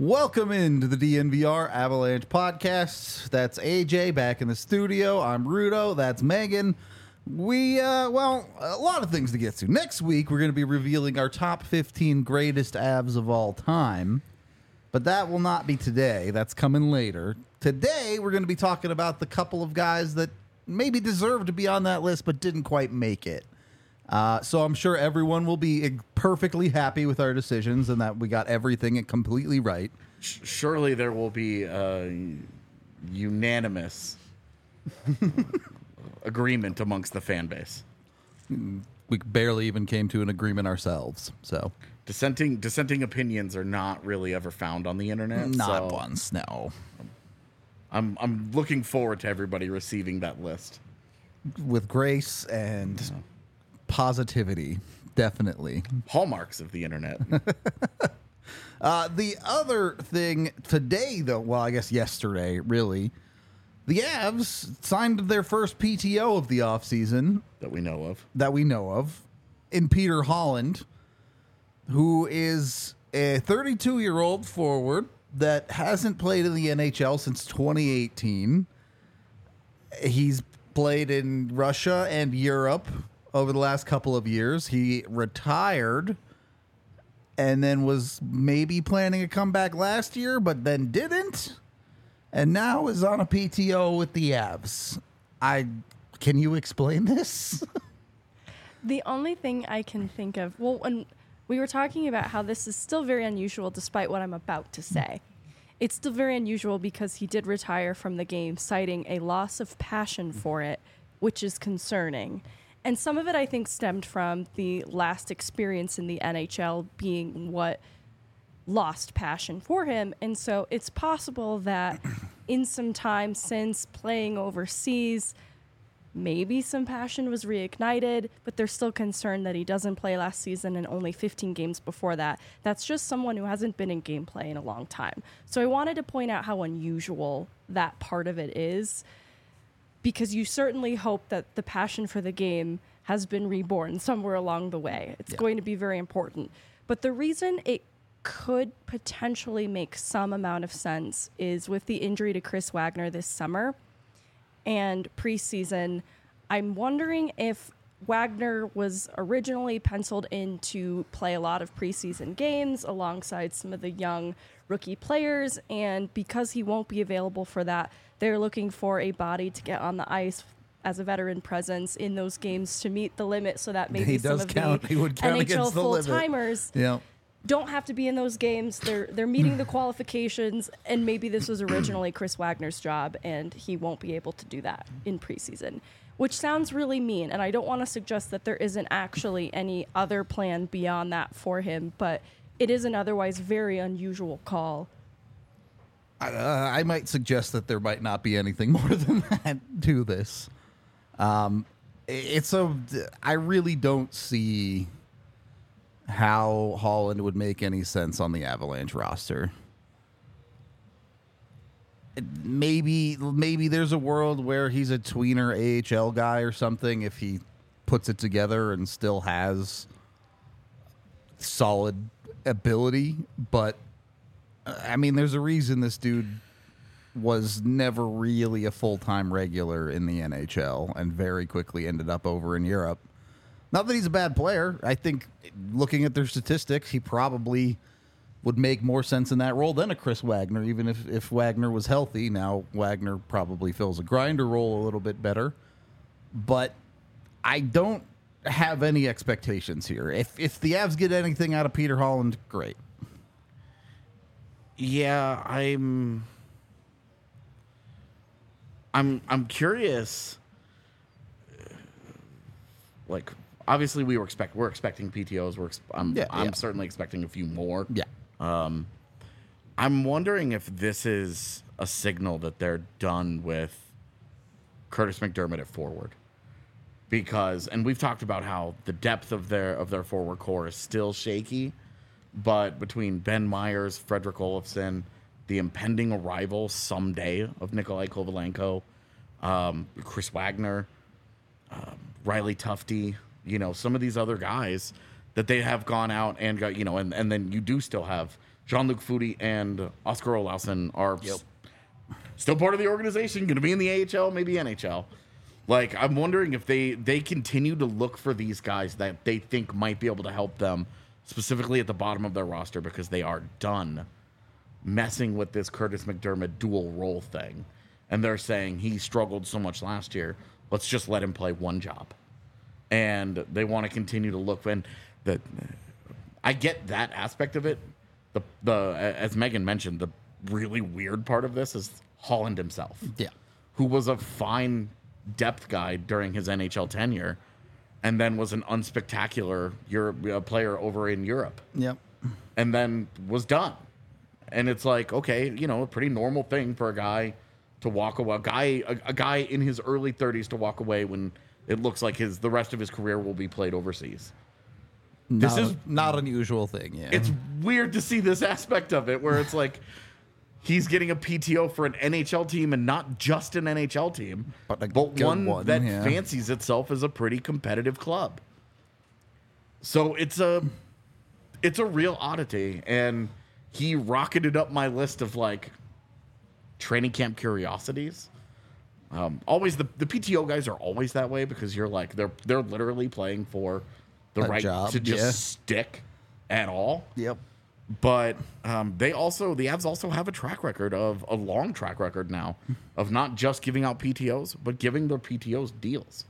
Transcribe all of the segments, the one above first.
Welcome into the DNVR Avalanche podcast. That's AJ back in the studio. I'm Rudo. That's Megan. A lot of things to get to. Next week, we're going to be revealing our top 15 greatest Avs of all time. But that will not be today. That's coming later. Today, we're going to be talking about the couple of guys that maybe deserve to be on that list but didn't quite make it. So I'm sure everyone will be perfectly happy with our decisions and that we got everything completely right. Surely there will be unanimous agreement amongst the fan base. We barely even came to an agreement ourselves. So dissenting opinions are not really ever found on the internet. Not once, no. I'm looking forward to everybody receiving that list with grace and positivity, definitely. Hallmarks of the internet. The other thing today, though, well, I guess yesterday, really, the Avs signed their first PTO of the offseason. That we know of. In Peter Holland, who is a 32-year-old forward that hasn't played in the NHL since 2018. He's played in Russia and Europe over the last couple of years. He retired and then was maybe planning a comeback last year, but then didn't, and now is on a PTO with the Avs. Can you explain this? The only thing I can think of, when we were talking about how this is still very unusual despite what I'm about to say. It's still very unusual because he did retire from the game, citing a loss of passion for it, which is concerning. And some of it, I think, stemmed from the last experience in the NHL being what lost passion for him. And so it's possible that in some time since playing overseas, maybe some passion was reignited, but they're still concerned that he doesn't play last season and only 15 games before that. That's just someone who hasn't been in gameplay in a long time. So I wanted to point out how unusual that part of it is, because you certainly hope that the passion for the game has been reborn somewhere along the way. It's going to be very important. But the reason it could potentially make some amount of sense is with the injury to Chris Wagner this summer and preseason. I'm wondering if Wagner was originally penciled in to play a lot of preseason games alongside some of the young rookie players, and because he won't be available for that, they're looking for a body to get on the ice as a veteran presence in those games to meet the limit, so that maybe some of the NHL full-timers don't have to be in those games. They're meeting the qualifications, and maybe this was originally Chris Wagner's job, and he won't be able to do that in preseason, which sounds really mean, and I don't want to suggest that there isn't actually any other plan beyond that for him, but it is an otherwise very unusual call. I might suggest that there might not be anything more than that to this. I really don't see how Holland would make any sense on the Avalanche roster. Maybe there's a world where he's a tweener AHL guy or something if he puts it together and still has solid ability, but I mean, there's a reason this dude was never really a full-time regular in the NHL and very quickly ended up over in Europe. Not that he's a bad player. I think looking at their statistics, he probably would make more sense in that role than a Chris Wagner, even if Wagner was healthy. Now, Wagner probably fills a grinder role a little bit better. But I don't have any expectations here. If the Avs get anything out of Peter Holland, great. Yeah, I'm curious. Like, obviously, we're expecting PTOs. I'm certainly expecting a few more. Yeah. I'm wondering if this is a signal that they're done with Curtis McDermott at forward, and we've talked about how the depth of their forward core is still shaky. But between Ben Myers, Frederick Olofsson, the impending arrival someday of Nikolai Kovalenko, Chris Wagner, Riley Tufte, some of these other guys that they have gone out and got, and then you do still have Jean-Luc Foudy and Oscar Olausson are still part of the organization, going to be in the AHL, maybe NHL. Like, I'm wondering if they continue to look for these guys that they think might be able to help them, specifically at the bottom of their roster, because they are done messing with this Curtis McDermott dual role thing. And they're saying he struggled so much last year, let's just let him play one job. And they want to continue to look. And I get that aspect of it. As Megan mentioned, the really weird part of this is Holland himself. Yeah. Who was a fine depth guy during his NHL tenure, and then was an unspectacular player over in Europe. Yep. And then was done. And it's like, okay, a pretty normal thing for a guy to walk away. A guy in his early 30s to walk away when it looks like the rest of his career will be played overseas. This is not an unusual thing. Yeah. It's weird to see this aspect of it where it's like he's getting a PTO for an NHL team and not just an NHL team, but one that fancies itself as a pretty competitive club. So it's a real oddity, and he rocketed up my list of like training camp curiosities. Always the PTO guys are always that way because you're like they're literally playing for the right job, to just stick at all. Yep. But the Avs also have a long track record now of not just giving out PTOs, but giving their PTOs deals.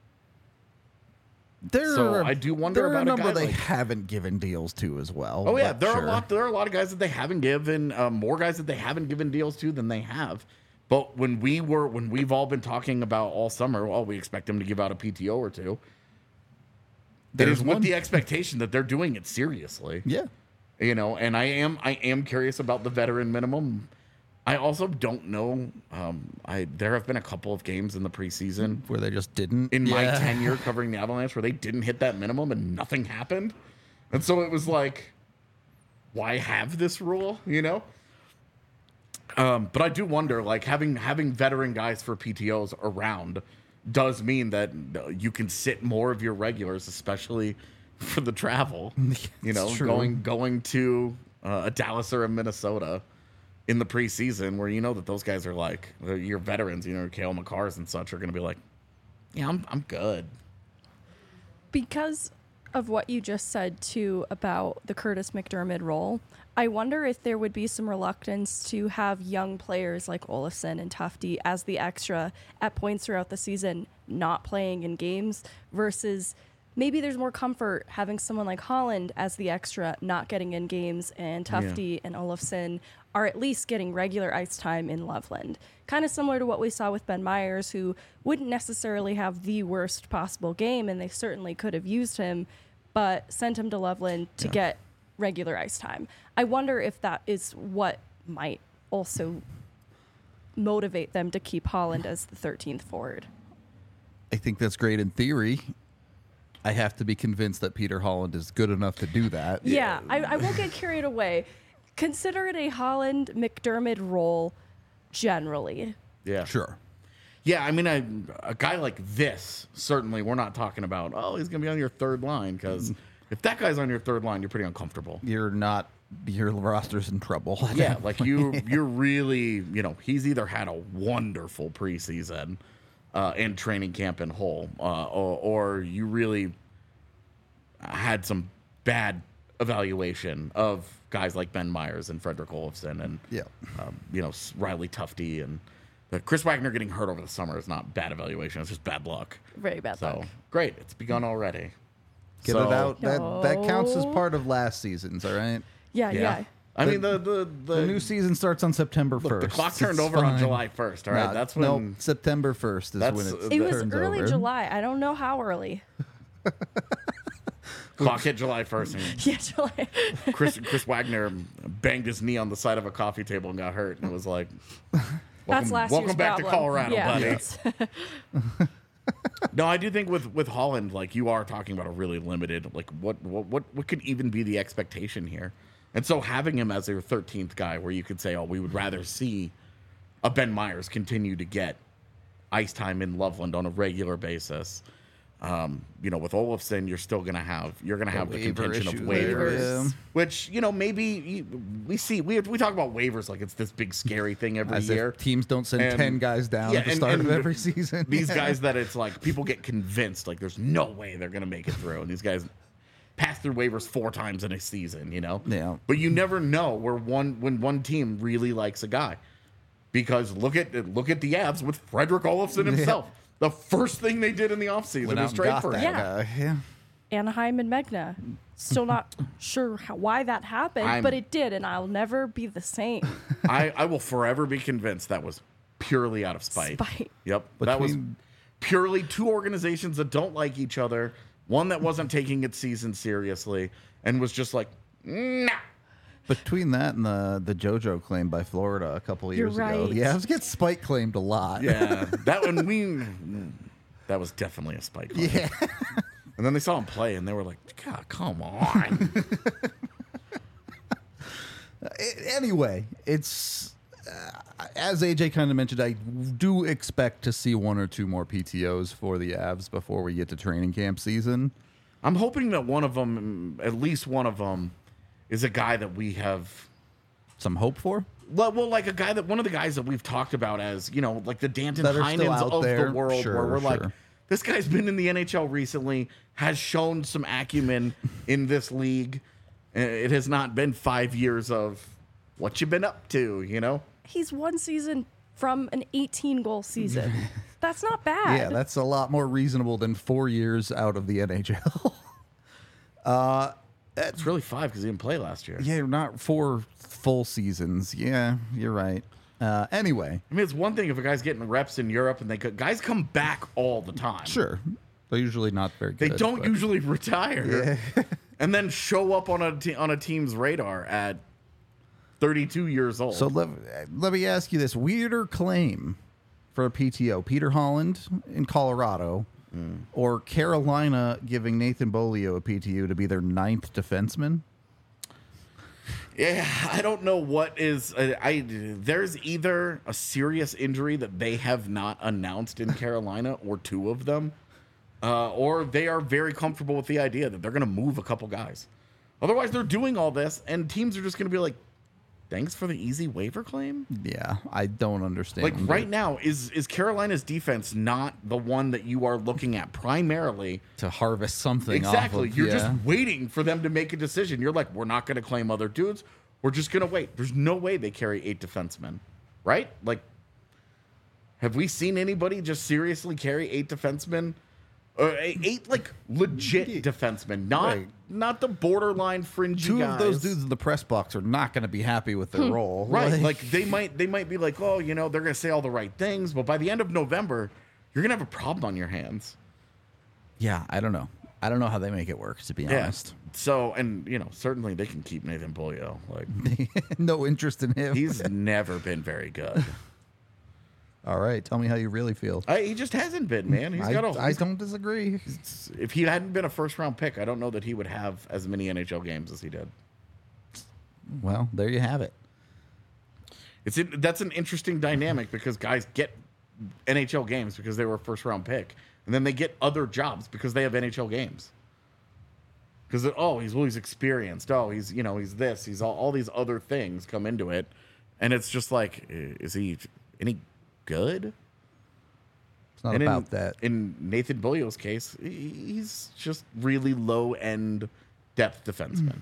I do wonder about a number guy they like, haven't given deals to as well. Oh yeah, there are a lot of guys that they haven't given more guys that they haven't given deals to than they have. But when we've all been talking about all summer, well, we expect them to give out a PTO or two. It is with the expectation that they're doing it seriously. Yeah. And I am curious about the veteran minimum. I also don't know. There have been a couple of games in the preseason where they just didn't. In my tenure covering the Avalanche, where they didn't hit that minimum and nothing happened, and so it was like, why have this rule? But I do wonder, like having veteran guys for PTOs around does mean that you can sit more of your regulars, especially for the travel. Going to a Dallas or a Minnesota in the preseason, where that those guys are like your veterans, Cale Makars and such are going to be like, yeah, I'm good. Because of what you just said too about the Curtis McDermott role, I wonder if there would be some reluctance to have young players like Olofsson and Tufte as the extra at points throughout the season not playing in games, versus maybe there's more comfort having someone like Holland as the extra not getting in games, and Tufte and Olofsson are at least getting regular ice time in Loveland. Kind of similar to what we saw with Ben Myers, who wouldn't necessarily have the worst possible game, and they certainly could have used him, but sent him to Loveland to get regular ice time. I wonder if that is what might also motivate them to keep Holland as the 13th forward. I think that's great in theory. I have to be convinced that Peter Holland is good enough to do that. Yeah, I won't get carried away. Consider it a Holland McDermott role generally. Yeah. Sure. Yeah, I mean, a guy like this, certainly we're not talking about, he's going to be on your third line, because if that guy's on your third line, you're pretty uncomfortable. Your roster's in trouble. Yeah, like you're really, he's either had a wonderful preseason and training camp in Hull, or you really had some bad evaluation of guys like Ben Myers and Frederick Olofsson and Riley Tufte, and Chris Wagner getting hurt over the summer is not bad evaluation. It's just bad luck. Very bad luck. Great. It's begun already. Get it out. That counts as part of last season's, all right? Yeah. I mean, the new season starts on September 1st. The clock turned over on July 1st, all right? That's when... September 1st is when it was early July. I don't know how early. Clock hit July 1st. Yeah, July. Chris Wagner banged his knee on the side of a coffee table and got hurt. And it was like, welcome back to Colorado, buddy. No, I do think with Holland, like, you are talking about a really limited, like, what could even be the expectation here? And so having him as your 13th guy, where you could say, we would rather see a Ben Myers continue to get ice time in Loveland on a regular basis. With Olofsson, you're gonna have the waiver contention of issue waivers, there, yeah. which maybe we talk about waivers like it's this big scary thing every As year. if teams don't send And- 10 guys down yeah, at the and- start of and every season. These Yeah. guys that it's like people get convinced like there's no way they're gonna make it through, and these guys pass through waivers 4 times in a season, Yeah. But you never know when one team really likes a guy, because look at the Avs with Frederick Olofsson himself. The first thing they did in the offseason Went was out and trade got for that him. Yeah. guy. Yeah. Anaheim and Megna. Still not sure why that happened, but it did, and I'll never be the same. I will forever be convinced that was purely out of spite. Yep. That was Between- purely 2 organizations that don't like each other, one that wasn't taking its season seriously and was just like, nah. Between that and the JoJo claim by Florida a couple of You're years ago, right. the Avs get spike claimed a lot. Yeah. That was definitely a spike. Yeah. And then they saw him play and they were like, God, come on. Anyway, it's as AJ kind of mentioned, I do expect to see 1 or 2 more PTOs for the Avs before we get to training camp season. I'm hoping that one of them, at least one of them, is a guy that we have. Some hope for? Well, like one of the guys that we've talked about as, like the Danton That are still Heinens out of there. the world, Sure, where we're like, sure. this guy's been in the NHL recently, has shown some acumen in this league. It has not been 5 years of what you've been up to, He's 1 season from an 18-goal season. That's not bad. Yeah, that's a lot more reasonable than 4 years out of the NHL. It's really 5 because he didn't play last year. Yeah, not 4 full seasons. Yeah, you're right. Anyway, I mean, it's one thing if a guy's getting reps in Europe and guys come back all the time. sure. They're usually not very They good. don't but- usually retire and then show up on a team's radar at 32 years old. So let me ask you this weirder claim for a PTO: Peter Holland in Colorado, or Carolina giving Nathan Bolio a PTO to be their 9th defenseman. Yeah, I don't know what is. There's either a serious injury that they have not announced in Carolina, or 2 of them, or they are very comfortable with the idea that they're going to move a couple guys. Otherwise, they're doing all this, and teams are just going to be like, "Thanks for the easy waiver claim." Yeah, I don't understand. Like right now, is Carolina's defense not the one that you are looking at primarily? to harvest something. Exactly. Off of, You're yeah. just waiting for them to make a decision. You're like, we're not going to claim other dudes. We're just going to wait. There's no way they carry 8 defensemen, right? Like, have we seen anybody just seriously carry 8 defensemen? 8 like legit defensemen, not the borderline fringy 2 guys. of those dudes in the press box are not going to be happy with their role. Right. Like they might be like, oh, they're going to say all the right things, but by the end of November, you're going to have a problem on your hands. yeah, I don't know. I don't know how they make it work, to be honest. So, and certainly they can keep Nathan Bolio. Like No interest in him. he's never been very good. All right, tell me how you really feel. He just hasn't been, man. He's got I don't disagree. if he hadn't been a first round pick, I don't know that he would have as many NHL games as he did. Well, there you have it. That's an interesting dynamic because guys get NHL games because they were a first round pick, and then they get other jobs because they have NHL games. Because he's experienced. Oh, he's this. He's all these other things come into it, and it's just like, is he any good? It's not And about that. In Nathan Bolio's case, he's just really low end depth defenseman.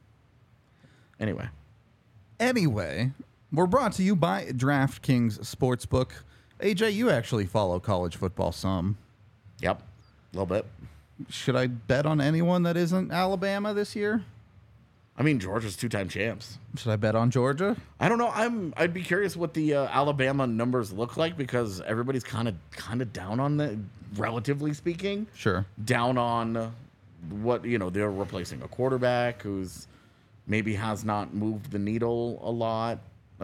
Anyway, we're brought to you by DraftKings Sportsbook. AJ, you actually follow college football some. Yep, a little bit. Should I bet on anyone that isn't Alabama this year? I mean, Georgia's 2-time champs. Should I bet on Georgia? I don't know. I'd be curious what the Alabama numbers look like because everybody's kind of down on the, relatively speaking. Sure. Down on what they're replacing a quarterback who's maybe has not moved the needle a lot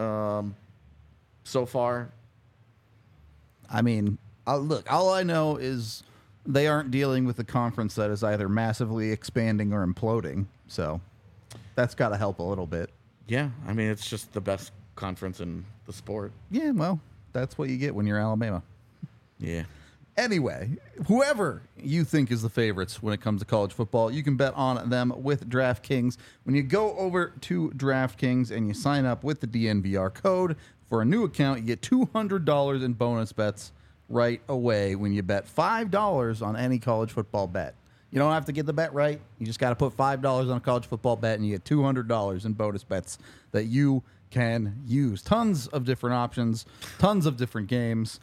so far. I mean, look, all I know is they aren't dealing with a conference that is either massively expanding or imploding. So that's got to help a little bit. Yeah, I mean it's just the best conference in the sport. Yeah, well, that's what you get when you're Alabama. Yeah. Anyway, whoever you think is the favorites when it comes to college football, you can bet on them with DraftKings. When you go over to DraftKings and you sign up with the DNVR code for a new account, you get $200 in bonus bets right away when you bet $5 on any college football bet. You don't have to get the bet right. You just got to put $5 on a college football bet and you get $200 in bonus bets that you can use. Tons of different options, tons of different games.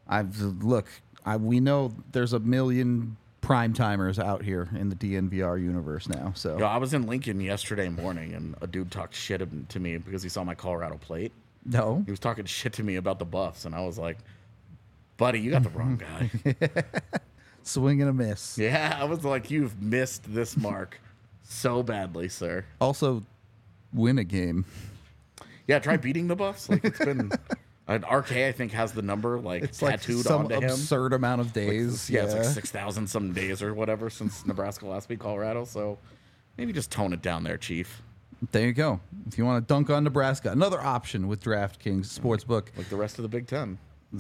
We know there's a million prime timers out here in the DNVR universe now. So Yo, I was in Lincoln yesterday morning, and a dude talked shit to me because he saw my Colorado plate. no, He was talking shit to me about the Buffs, and I was like, buddy, you got the wrong guy. swing and a miss. Yeah, I was like, you've missed this mark so badly, sir. Also, win a game. Yeah, try beating the Buffs. Like, it's been... RK, I think, has the number, like, It's like tattooed some onto him. absurd amount of days. Yeah, it's like 6,000 some days or whatever since Nebraska last beat Colorado. So maybe just tone it down there, Chief. There you go. If you want to dunk on Nebraska, another option with DraftKings Sportsbook. Like the rest of the Big Ten.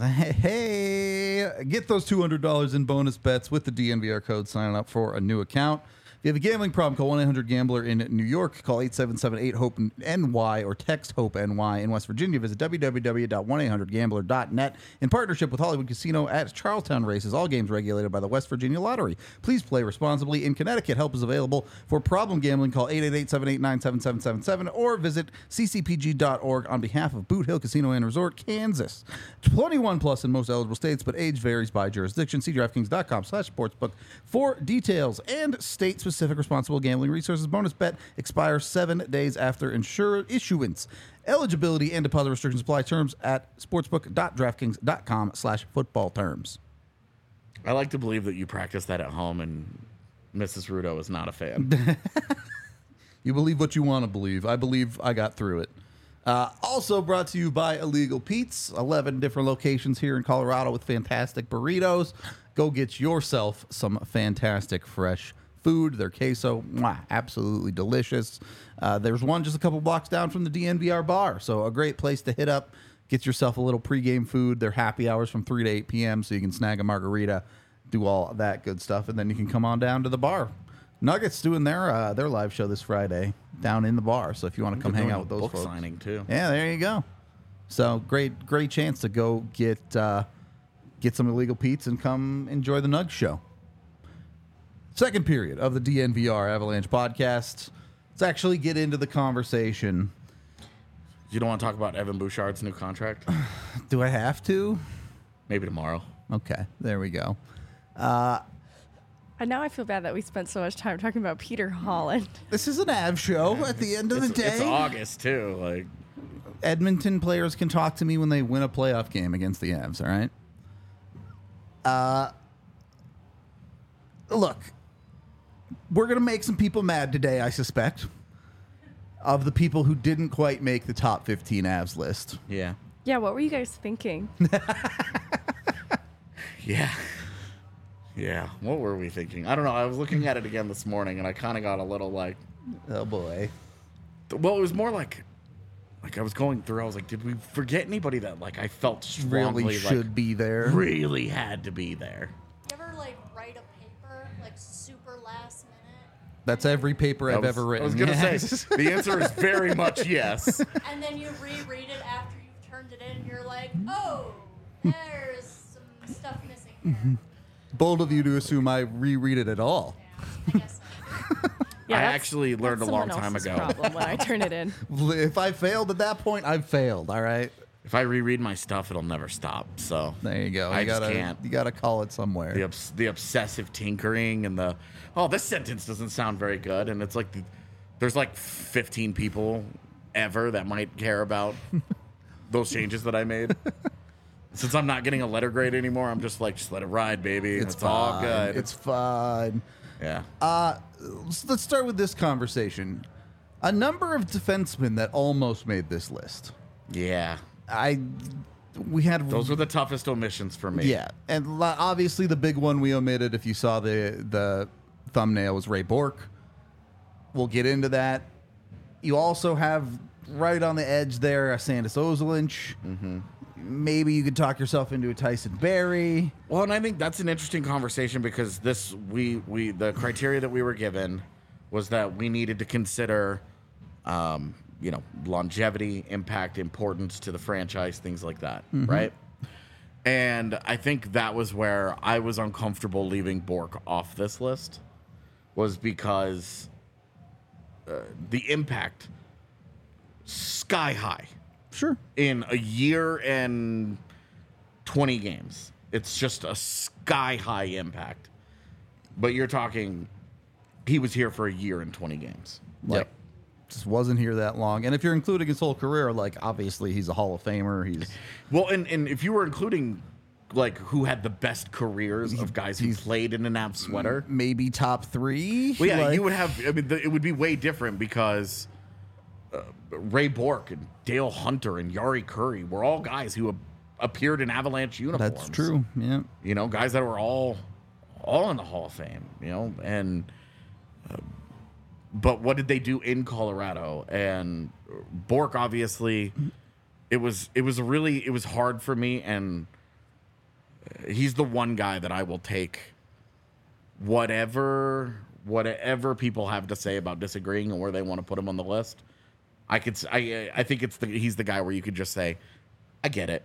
Hey, get those $200 in bonus bets with the DNVR code. Sign up for a new account. If you have a gambling problem, call 1-800-GAMBLER in New York. Call 877-8-HOPE-NY or text HOPE-NY. In West Virginia, visit www.1800gambler.net. In partnership with Hollywood Casino at Charlestown Races, all games regulated by the West Virginia Lottery. Please play responsibly. In Connecticut, help is available. For problem gambling, call 888-789-7777 or visit ccpg.org on behalf of Boot Hill Casino and Resort, Kansas. 21 plus in most eligible states, but age varies by jurisdiction. See DraftKings.com/sportsbook for details and state-specific responsible gambling resources. Bonus bet expires 7 days after issuance. Eligibility and deposit restrictions apply. Terms at sportsbook.draftkings.com/football terms. I like to believe that you practice that at home, and Mrs. Rudo is not a fan. You believe what you want to believe. I believe I got through it. Also brought to you by Illegal Pete's. 11 different locations here in Colorado with fantastic burritos. Go get yourself some fantastic fresh food. Their queso, absolutely delicious. There's one just a couple blocks down from the DNVR bar, so a great place to hit up. Get yourself a little pregame food. Their happy hours from 3 to 8 p.m., so you can snag a margarita, do all that good stuff, and then you can come on down to the bar. Nuggets doing their live show this Friday down in the bar, so if you want to come hang out with those book folks. signing, too. Yeah, there you go. So great chance to go get some Illegal Pete's and come enjoy the Nugs show. Second period of the DNVR Avalanche podcast. Let's actually get into the conversation. You don't want to talk about Evan Bouchard's new contract? Do I have to? Maybe tomorrow. Okay, there we go. And now I feel bad that we spent so much time talking about Peter Holland. This is an Av show at the end of the day. It's August, too. Like, Edmonton players can talk to me when they win a playoff game against the Avs, all right? Look, we're going to make some people mad today, I suspect, of the people who didn't quite make the top 15 Avs list. yeah. Yeah, what were you guys thinking? Yeah. Yeah. What were we thinking? I don't know. I was looking at it again this morning, and I kind of got a little like... Oh, boy. Well, it was more like I was going through, I was like, did we forget anybody that, like, I felt strongly Really should like, be there. really had to be there? You ever like write a paper like super last minute? That's every paper I've ever written. I was going to Yes. say, the answer is very much yes. And then you reread it after you've turned it in and you're like, oh, there's some stuff missing here. Bold of you to assume I reread it at all. Yeah, I guess so. Yeah, I that's- actually learned that's a long someone time else's ago. problem when I turn it in. If I failed at that point, I've failed, all right? If I reread my stuff, it'll never stop. So There you go. I You just gotta, can't. You gotta call it somewhere. The obsessive tinkering and this sentence doesn't sound very good, and it's like there's like 15 people ever that might care about those changes that I made. Since I'm not getting a letter grade anymore, I'm just like, just let it ride, baby. It's all fine. good. It's fine. Yeah. Let's start with this conversation. A number of defensemen that almost made this list. Yeah. We had Those were the toughest omissions for me. Yeah, and obviously the big one we omitted, if you saw the thumbnail, was Ray Bork. We'll get into that. You also have right on the edge there, a Sandis Ozolinsh. Maybe you could talk yourself into a Tyson Berry. Well, and I think that's an interesting conversation because the criteria that we were given was that we needed to consider, longevity, impact, importance to the franchise, things like that, right? And I think that was where I was uncomfortable leaving Bork off this list, was because the impact sky high. Sure. In a year and 20 games. It's just a sky high impact. But you're talking, he was here for a year and 20 games. Like, just wasn't here that long. And if you're including his whole career, like, obviously he's a Hall of Famer. He's Well, and if you were including, like, who had the best careers of guys who played in an Avs sweater. maybe top 3. Well, yeah, Like, you would have, it would be way different because Ray Bork and Dale Hunter and Yari Curry were all guys who appeared in Avalanche uniforms. That's true. Yeah. You know, guys that were all in the Hall of Fame, and but what did they do in Colorado? And Bork, obviously, it was hard for me, and he's the one guy that I will take whatever people have to say about disagreeing and where they want to put him on the list. I think he's the guy where you could just say, I get it.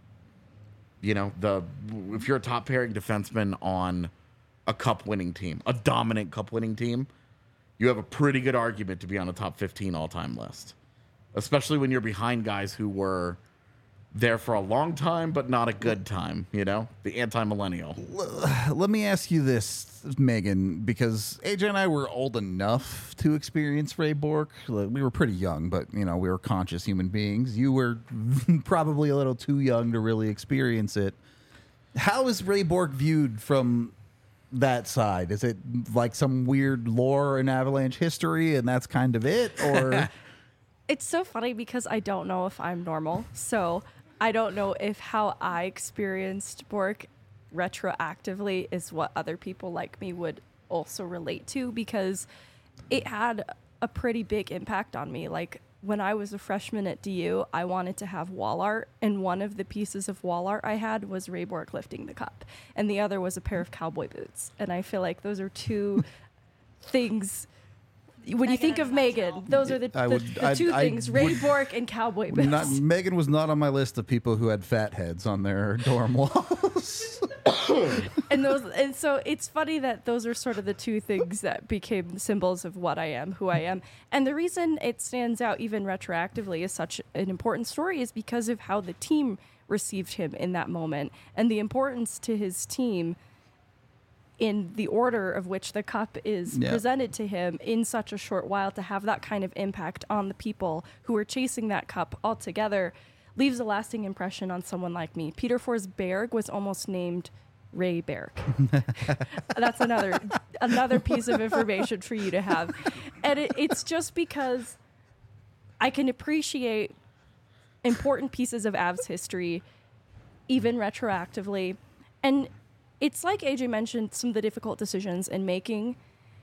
If you're a top pairing defenseman on a cup winning team, a dominant cup winning team, you have a pretty good argument to be on a top 15 all time list, especially when you're behind guys who were there for a long time, but not a good time, the anti-millennial. Let me ask you this, Megan, because AJ and I were old enough to experience Ray Bork. We were pretty young, but, we were conscious human beings. You were probably a little too young to really experience it. How is Ray Bork viewed from that side? Is it like some weird lore in Avalanche history and that's kind of it? Or It's so funny because I don't know if I'm normal. So I don't know if how I experienced Bork retroactively is what other people like me would also relate to, because it had a pretty big impact on me. Like, when I was a freshman at DU, I wanted to have wall art, and one of the pieces of wall art I had was Ray Bork lifting the cup, and the other was a pair of cowboy boots. And I feel like those are two things. When you think of Megan, those are the two things: Ray Bork and cowboy boots. Megan was not on my list of people who had fat heads on their dorm walls. And so it's funny that those are sort of the two things that became symbols of what I am, who I am. And the reason it stands out even retroactively as such an important story is because of how the team received him in that moment, and the importance to his team in the order of which the cup is presented to him in such a short while. To have that kind of impact on the people who are chasing that cup altogether leaves a lasting impression on someone like me. Peter Forsberg was almost named Ray Berg. That's another piece of information for you to have. And it's just because I can appreciate important pieces of Avs history even retroactively. And it's like AJ mentioned, some of the difficult decisions in making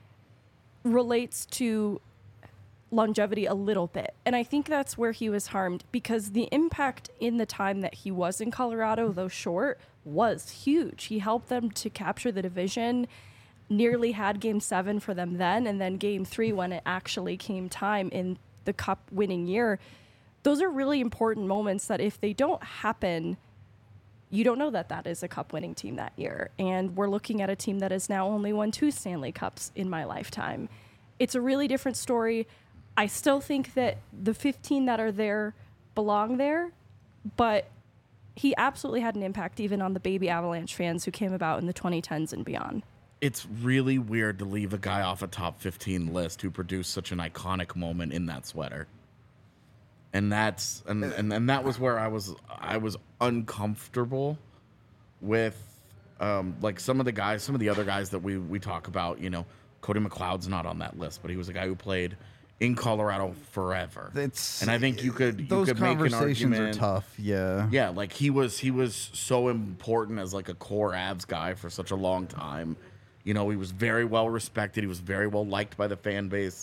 relates to longevity a little bit. And I think that's where he was harmed, because the impact in the time that he was in Colorado, though short, was huge. He helped them to capture the division, nearly had Game 7 for them then, and then Game 3 when it actually came time in the cup winning year. Those are really important moments that if they don't happen, you don't know that that is a cup-winning team that year. And we're looking at a team that has now only won 2 Stanley Cups in my lifetime. It's a really different story. I still think that the 15 that are there belong there, but he absolutely had an impact even on the baby Avalanche fans who came about in the 2010s and beyond. It's really weird to leave a guy off a top 15 list who produced such an iconic moment in that sweater. And that's and that was where I was uncomfortable with like some of the other guys that we talk about. Cody McLeod's not on that list, but he was a guy who played in Colorado forever. And I think you could those make an conversations argument. are tough. Yeah, like he was so important as like a core Avs guy for such a long time. He was very well respected. He was very well liked by the fan base.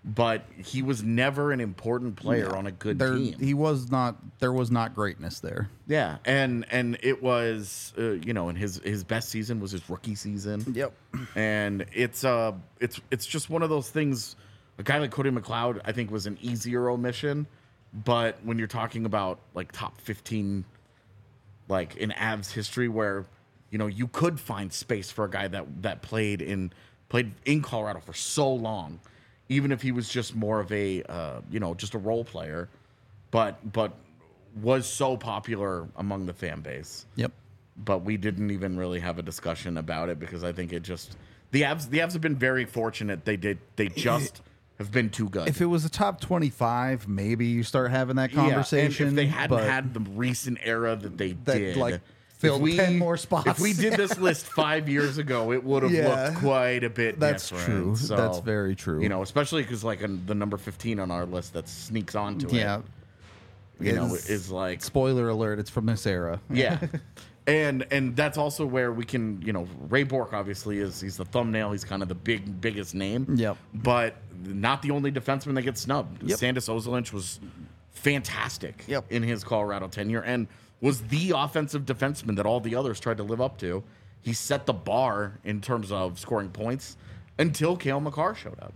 but he was never an important player on a good team. He was not. There was not greatness there. Yeah, and it was and his best season was his rookie season. Yep. And it's just one of those things. A guy like Cody McLeod, I think, was an easier omission, but when you're talking about like top 15, like in Avs history, where you could find space for a guy that played in Colorado for so long, even if he was just more of a just a role player, but was so popular among the fan base. Yep. But we didn't even really have a discussion about it because I think it just the Avs have been very fortunate. They just have been too good. If it was a top 25, maybe you start having that conversation. And if they hadn't had the recent era that they did, like filled 10 more spots. If we did this list 5 years ago, it would have looked quite a bit That's different. true. So, That's very true. Especially because like the number 15 on our list that sneaks onto it. Is like spoiler alert. It's from this era. Yeah. And that's also where we can, Ray Bourque obviously he's the thumbnail. He's kind of the biggest name. Yep. But not the only defenseman that gets snubbed. Yep. Sandis Ozolinsh was fantastic Yep. in his Colorado tenure and was the offensive defenseman that all the others tried to live up to. He set the bar in terms of scoring points until Cale Makar showed up.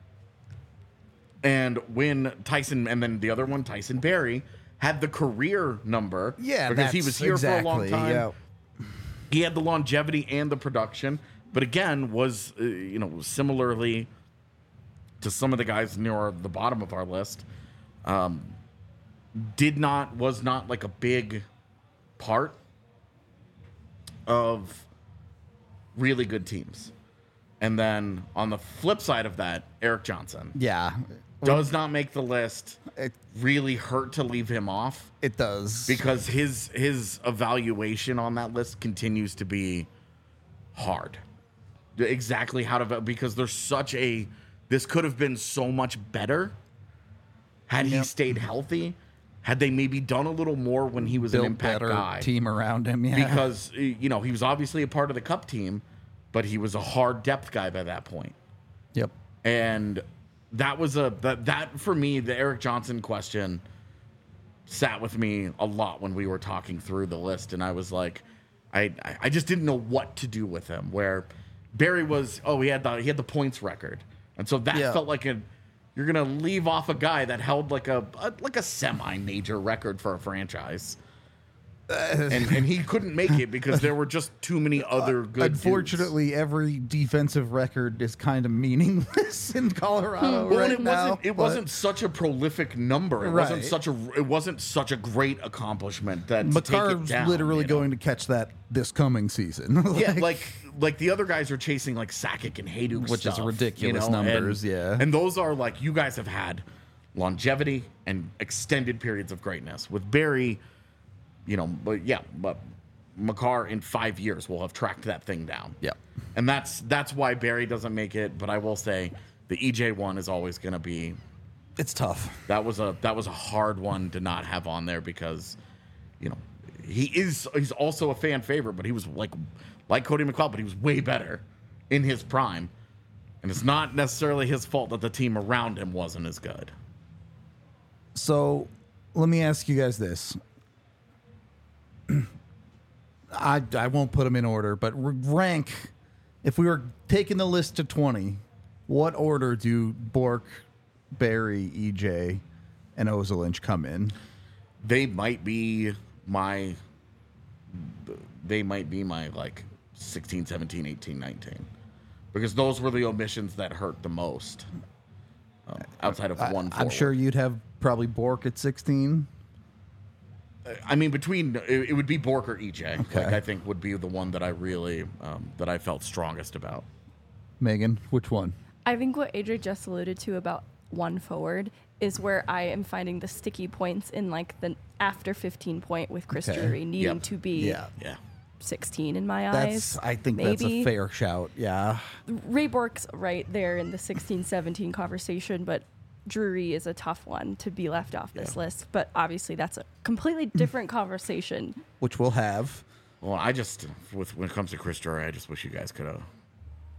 And when Tyson, and then the other one, Tyson Barrie, had the career number. Yeah, because he was here for a long time. Yeah. He had the longevity and the production, but again, was similarly to some of the guys near the bottom of our list, was not like a big part of really good teams. And then on the flip side of that, Erik Johnson. Yeah. Does not make the list. It Really hurt to leave him off it does. because his evaluation on that list continues to be hard. Exactly how to, because there's such a, this could have been so much better had he stayed healthy. Had they maybe done a little more when he was Built an impact better guy. team around him. Yeah. Because, he was obviously a part of the Cup team, but he was a hard depth guy by that point. Yep. And that was that for me, the Erik Johnson question sat with me a lot when we were talking through the list. And I was like, I just didn't know what to do with him. Where Barrie was, he had the points record. And so that felt like you're going to leave off a guy that held like a semi-major record for a franchise. And he couldn't make it because there were just too many other good Unfortunately, every defensive record is kind of meaningless in Colorado well, right now. It wasn't such a prolific number. It Right. wasn't such a great accomplishment that to take it Makar's down, literally going to catch that this coming season. Yeah, like the other guys are chasing like Sakic and Hayduk, Which is stuff, ridiculous numbers, yeah. And those are like, you guys have had longevity and extended periods of greatness. With Barrie, but Makar in 5 years will have tracked that thing down. Yep. And that's why Barrie doesn't make it. But I will say the EJ one is always going to be. It's tough. That was a hard one to not have on there because, he's also a fan favorite, but he was like Cody McLeod, but he was way better in his prime. And it's not necessarily his fault that the team around him wasn't as good. So let me ask you guys this. I won't put them in order, but rank, if we were taking the list to 20, what order do Bourque, Barrie, EJ, and Ozolinsh come in? They might be my like 16, 17, 18, 19. Because those were the omissions that hurt the most. Outside of one forward. I'm sure you'd have probably Bourque at 16. I mean, it would be Bourque or EJ. Okay. Like, I think would be the one that I really that I felt strongest about. Megan, which one? I think what AJ just alluded to about one forward is where I am finding the sticky points in like the after 15 point with Chris Drury needing to be Yeah. 16 in my eyes. I think that's a fair shout. Yeah. Ray Bourque's right there in the 16-17 conversation, but Drury is a tough one to be left off this list. But obviously that's a completely different conversation. Which we'll have. Well, when it comes to Chris Drury, I just wish you guys could have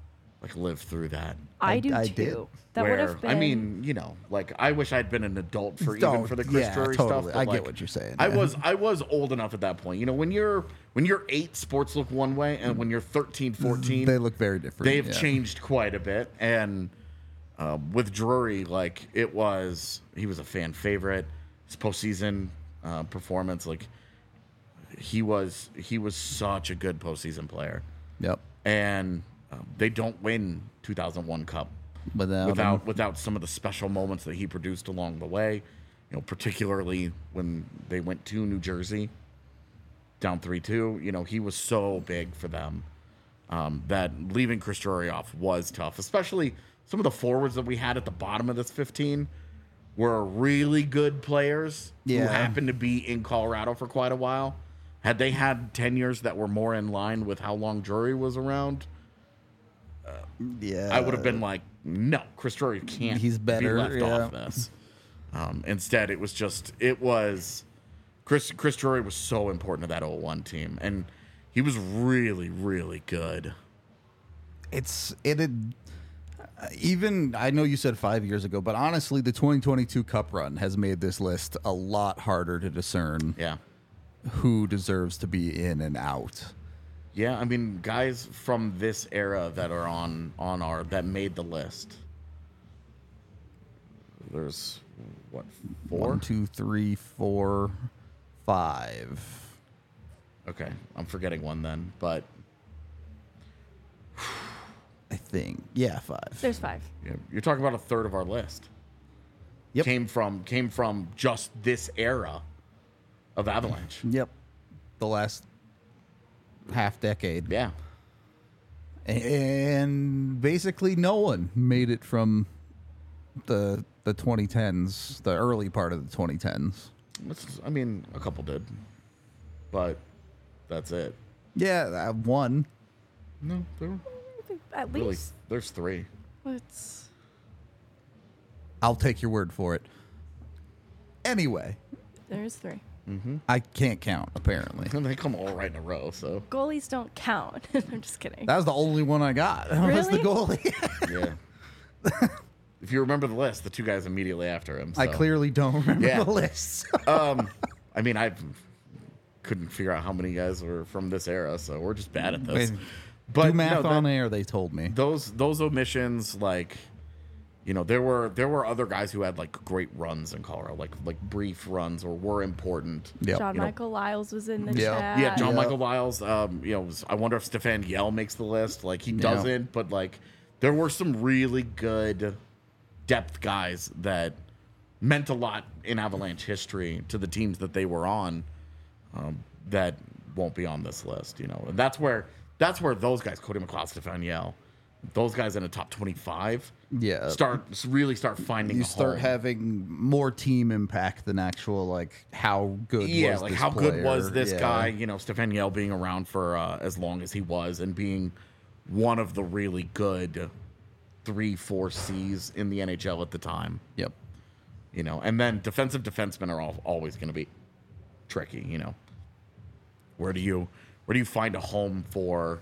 like live through that. I do I too. did. That would Where, have been. I mean, you know, like I wish I'd been an adult for Don't- even for the Chris yeah, Drury totally. stuff. I but, get like, what you're saying, I yeah. was old enough at that point. You know, when you're 8, sports look one way, and when you're 13, 14, They look very different. they've yeah. changed quite a bit. And with Drury, like he was a fan favorite. His postseason performance, like he was such a good postseason player. Yep. And they don't win 2001 Cup without some of the special moments that he produced along the way. You know, particularly when they went to New Jersey, down 3-2. You know, he was so big for them that leaving Chris Drury off was tough. Especially some of the forwards that we had at the bottom of this 15 were really good players who Yeah. happened to be in Colorado for quite a while. Had they had tenures that were more in line with how long Drury was around, Yeah. I would have been like, no, Chris Drury can't He's better, be left yeah. off this. Instead, it was Chris Drury was so important to that 01 team, and he was really, really good. Even I know you said 5 years ago, but honestly, the 2022 Cup run has made this list a lot harder to discern Yeah. who deserves to be in and out. Yeah, I mean, guys from this era that are on our that made the list. There's what, 4? 1, 2, 3, 4, 5. Okay, I'm forgetting one then, but I think. Yeah, 5. There's 5. yeah, you're talking about a third of our list. Yep. Came from just this era of Avalanche. Yep. The last half decade. Yeah. And basically no one made it from the 2010s, the early part of the 2010s. I mean, a couple did, but that's it. Yeah, one. No, there were At really least. there's 3. It's I'll take your word for it. Anyway, there's 3. I can't count, apparently. And they come all right in a row. So Goalies don't count. I'm just kidding. That was the only one I got. Was the Really? goalie. yeah. If you remember the list, the 2 guys immediately after him. I so. clearly don't remember Yeah. the list. I mean, I couldn't figure out how many guys were from this era, so we're just bad at this. Wait, But Do math no, on air, they told me. those omissions, like, you know, there were other guys who had like great runs in Colorado, like brief runs or were important. Yep. John you know. Michael Lyles was in the Yeah. chat. Yeah, John Yeah. Michael Lyles. You know, I wonder if Stefan Yell makes the list. Like he Yeah. doesn't, but like there were some really good depth guys that meant a lot in Avalanche history to the teams that they were on. That won't be on this list, you know, and that's where those guys, Cody McLeod, Stefan Yell, those guys in the top 25, Yeah. really start finding. You a start home. having more team impact than actual, like, how good Yeah, was like this how good was player? this Yeah. guy? You know, Stefan Yell being around for as long as he was and being one of the really good 3-4 Cs in the NHL at the time. Yep. You know, and then defensive defensemen are always going to be tricky. You know, where do you find a home for?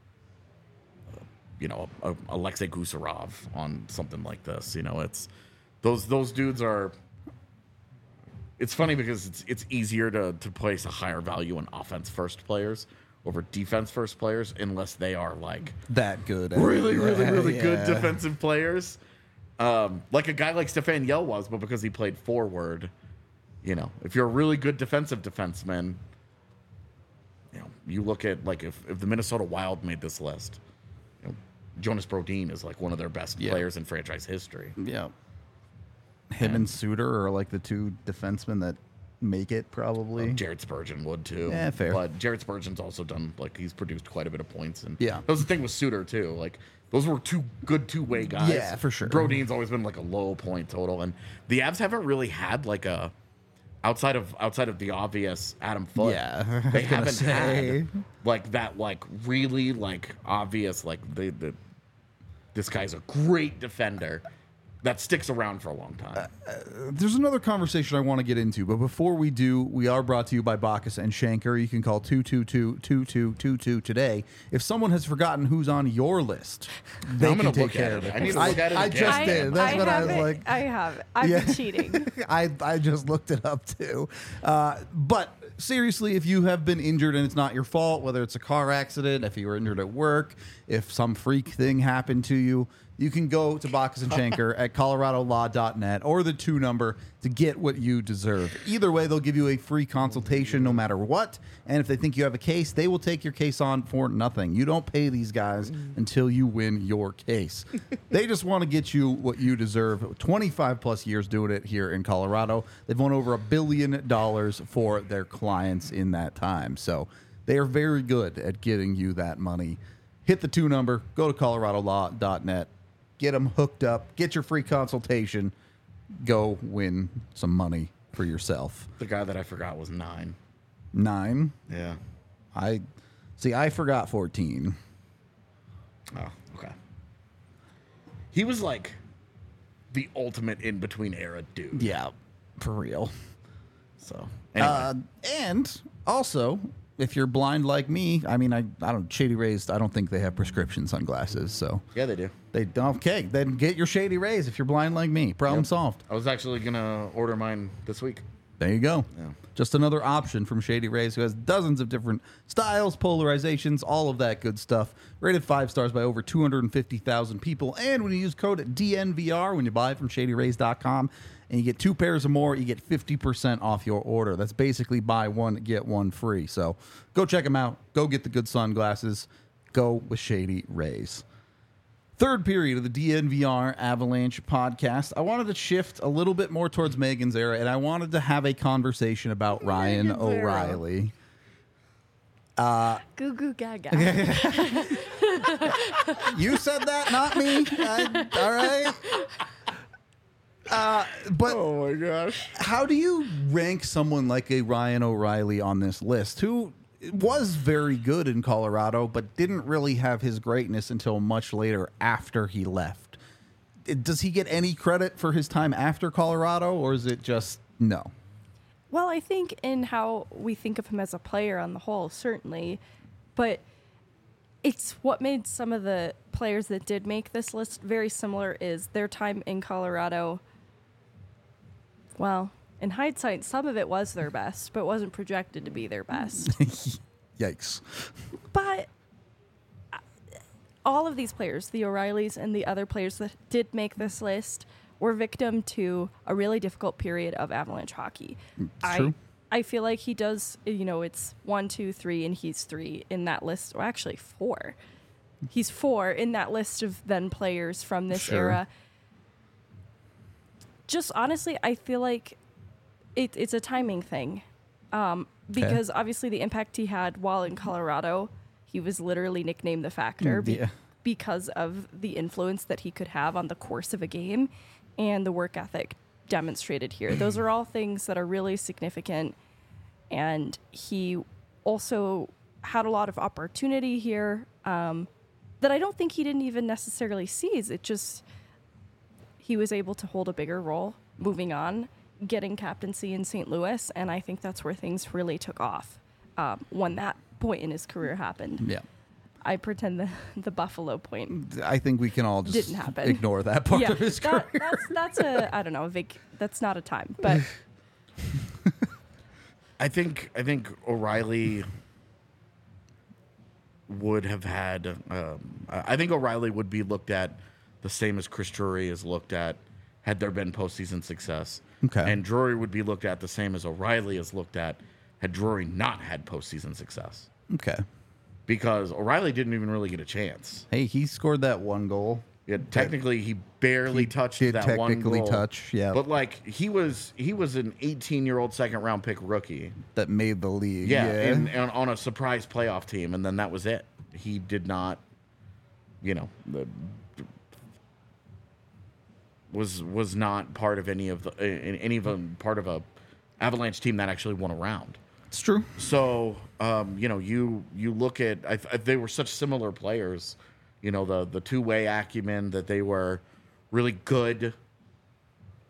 You know, Alexei Gusarov on something like this. You know, it's those dudes are. It's funny because it's easier to place a higher value on offense first players over defense first players unless they are like That good. really good Yeah. defensive players. Like a guy like Stefan Yell was, but because he played forward, you know, if you're a really good defensive defenseman, you know, you look at like if the Minnesota Wild made this list, you know, Jonas Brodin is like one of their best Yeah. players in franchise history. Yeah. Him and Suter are like the 2 defensemen that make it, probably. Jared Spurgeon would too. Yeah, fair. But Jared Spurgeon's also done like he's produced quite a bit of points, and Yeah. that was the thing with Suter too. Like those were 2 good two-way guys. Yeah, for sure. Brodin's always been like a low point total, and the Avs haven't really had like a outside of the obvious Adam Foote. Yeah, I was they gonna haven't say. had like that like really like obvious like this guy's a great defender. that sticks around for a long time. There's another conversation I want to get into, but before we do, we are brought to you by Bacchus and Shanker. You can call 222-2222 today. If someone has forgotten who's on your list, they I'm can gonna take look care at of it. it. I need to look at it I again. just did. That's what I was like. I have it. I've been cheating. I just looked it up too. But seriously, if you have been injured and it's not your fault, whether it's a car accident, if you were injured at work, if some freak thing happened to you, you can go to Bacchus and Shanker at coloradolaw.net or the 2 number to get what you deserve. Either way, they'll give you a free consultation no matter what. And if they think you have a case, they will take your case on for nothing. You don't pay these guys until you win your case. They just want to get you what you deserve. 25 plus years doing it here in Colorado. They've won over $1 billion for their clients in that time. So they are very good at getting you that money. Hit the 2 number, go to coloradolaw.net. Get them hooked up. Get your free consultation. Go win some money for yourself. The guy that I forgot was 9. 9. Yeah. I forgot 14. Oh, okay. He was like the ultimate in-between era dude. Yeah, for real. So, anyway. And also, if you're blind like me, I mean, I don't Shady Rays. I don't think they have prescription sunglasses. So Yeah, they do. they don't. Okay, then get your Shady Rays if you're blind like me. Problem solved. I was actually going to order mine this week. There you go. Yeah. Just another option from Shady Rays, who has dozens of different styles, polarizations, all of that good stuff. Rated 5 stars by over 250,000 people. And when you use code DNVR when you buy from ShadyRays.com and you get 2 pairs or more, you get 50% off your order. That's basically buy one, get one free. So go check them out. Go get the good sunglasses. Go with Shady Rays. Third period of the DNVR Avalanche podcast. I wanted to shift a little bit more towards Megan's era, and I wanted to have a conversation about Ryan Megan's era. O'Reilly. Goo goo gaga. You said that, not me. All right. But Oh, my gosh. how do you rank someone like a Ryan O'Reilly on this list, who was very good in Colorado, but didn't really have his greatness until much later after he left? Does he get any credit for his time after Colorado, or is it just no? Well, I think in how we think of him as a player on the whole, certainly. But it's what made some of the players that did make this list very similar is their time in Colorado. Well, in hindsight, some of it was their best, but wasn't projected to be their best. Yikes. But all of these players, the O'Reillys and the other players that did make this list, were victim to a really difficult period of Avalanche hockey. true. I feel like he does, it's 1, 2, 3, and he's 3 in that list. Or actually 4. He's 4 in that list of then players from this Sure. era. Just honestly, I feel like it's a timing thing. Because obviously the impact he had while in Colorado, he was literally nicknamed the Factor Yeah. because of the influence that he could have on the course of a game and the work ethic demonstrated here. Those are all things that are really significant. And he also had a lot of opportunity here that I don't think he didn't even necessarily seize. It just, he was able to hold a bigger role moving on, getting captaincy in St. Louis. And I think that's where things really took off when that point in his career happened. Yeah. I pretend the Buffalo point I think we can all just didn't happen. ignore that part of his career. That's a I don't know, that's not a time, but I think O'Reilly would have had. I think O'Reilly would be looked at the same as Chris Drury is looked at had there been postseason success. Okay. And Drury would be looked at the same as O'Reilly is looked at had Drury not had postseason success. Okay. Because O'Reilly didn't even really get a chance. Hey, he scored that one goal. Yeah, technically, he barely touched did that one technically goal. touch, yeah. But like he was an 18-year-old second-round pick rookie. That made the league. Yeah, and on a surprise playoff team, and then that was it. He did not, was not part of any of part of a Avalanche team that actually won a round. It's true. So, you look at they were such similar players. The two-way acumen that they were really good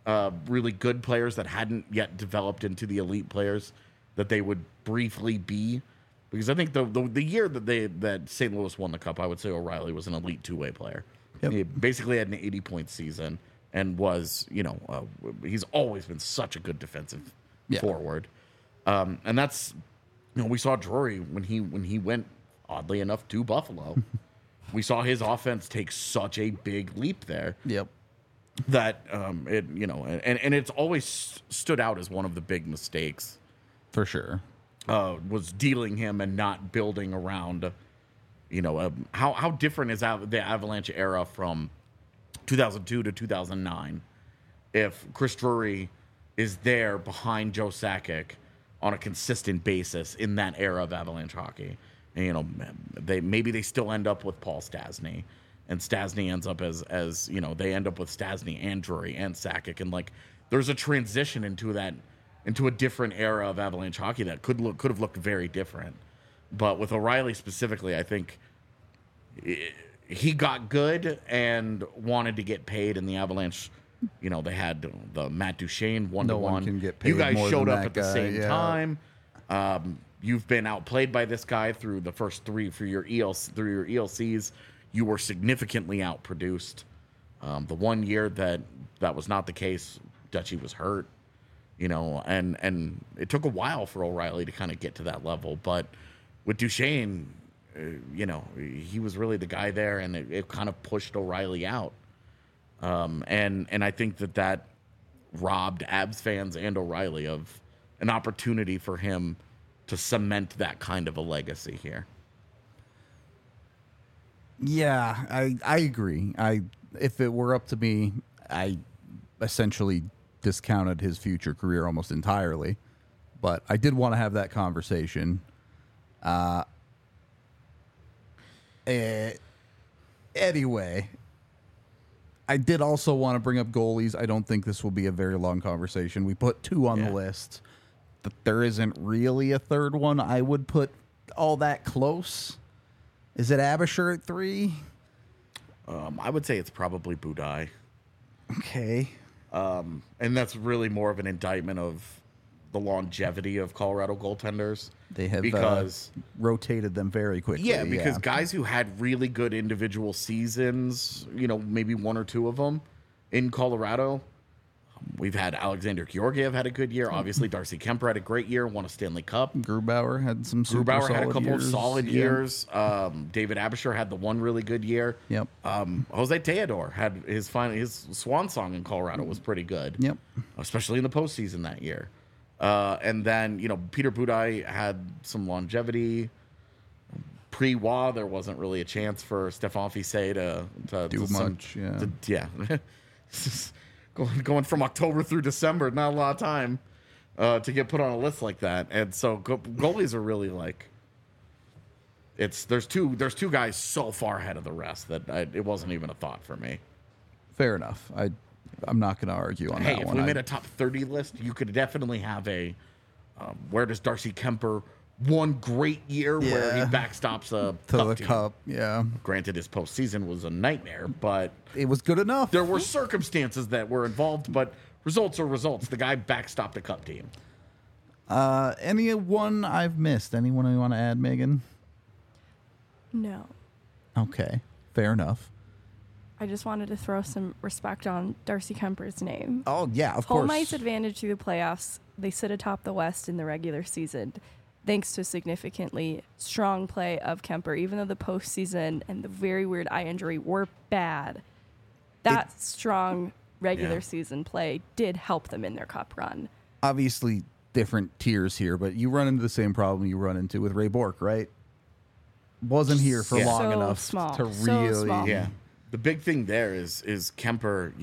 really good players that hadn't yet developed into the elite players that they would briefly be. Because I think the year that St. Louis won the Cup, I would say O'Reilly was an elite two-way player. Yep. He basically had an 80-point season and was, he's always been such a good defensive forward. And that's, we saw Drury when he went, oddly enough, to Buffalo. We saw his offense take such a big leap there. Yep. That and it's always stood out as one of the big mistakes. For sure. Was dealing him and not building around, how different is the Avalanche era from 2002 to 2009 if Chris Drury is there behind Joe Sakic on a consistent basis in that era of Avalanche hockey. And, they still end up with Paul Stastny, and Stastny ends up as they end up with Stastny and Drury and Sakic, and there's a transition into a different era of Avalanche hockey that could have looked very different. But with O'Reilly specifically, I think he got good and wanted to get paid, and the Avalanche, they had the Matt Duchene 1-to-1. No one can get paid You guys more showed than up that at the guy, same yeah. time. You've been outplayed by this guy through the first three for your ELCs. You were significantly outproduced. The 1 year that was not the case, Dutchie was hurt. And it took a while for O'Reilly to kind of get to that level. But with Duchene, he was really the guy there, and it kind of pushed O'Reilly out. And I think that robbed Abs fans and O'Reilly of an opportunity for him to cement that kind of a legacy here. Yeah, I agree. If it were up to me, I essentially discounted his future career almost entirely. But I did want to have that conversation. Anyway, I did also want to bring up goalies. I don't think this will be a very long conversation. We put two on the list. But there isn't really a third one I would put all that close. Is it Abisher at 3? I would say it's probably Budai. Okay. And that's really more of an indictment of the longevity of Colorado goaltenders. They have because rotated them very quickly. Yeah, because guys who had really good individual seasons, maybe one or two of them in Colorado. We've had Alexander Georgiev had a good year. Obviously, Darcy Kemper had a great year, won a Stanley Cup. Grubauer had some super Grubauer solid had a couple years. of solid Yeah. years. David Abisher had the one really good year. Yep. Jose Teodor had his swan song in Colorado was pretty good. Yep. Especially in the postseason that year. And then, Peter Budaj had some longevity. Pre-Wa, there wasn't really a chance for Stefan Fiset to Do much, yeah. Going from October through December, not a lot of time to get put on a list like that. And so goalies are really there's two guys so far ahead of the rest that it wasn't even a thought for me. Fair enough. I'm not going to argue on that Hey, if one. we made a top 30 list, you could definitely have a where does Darcy Kemper one great year where he Yeah. backstops a to cup the team. cup. Yeah. Granted, his postseason was a nightmare, but It was good enough. there were circumstances that were involved, but results are results. The guy backstopped a cup team. Anyone I've missed? Anyone you want to add, Megan? No. Okay. Fair enough. I just wanted to throw some respect on Darcy Kemper's name. Oh, yeah, of Home course. ice advantage through the playoffs. They sit atop the West in the regular season, thanks to significantly strong play of Kemper. Even though the postseason and the very weird eye injury were bad, that strong regular season play did help them in their cup run. Obviously, different tiers here, but you run into the same problem you run into with Ray Bork, right? Wasn't here for Yeah. long So enough small. to So really. small. Yeah. The big thing there is Kemper,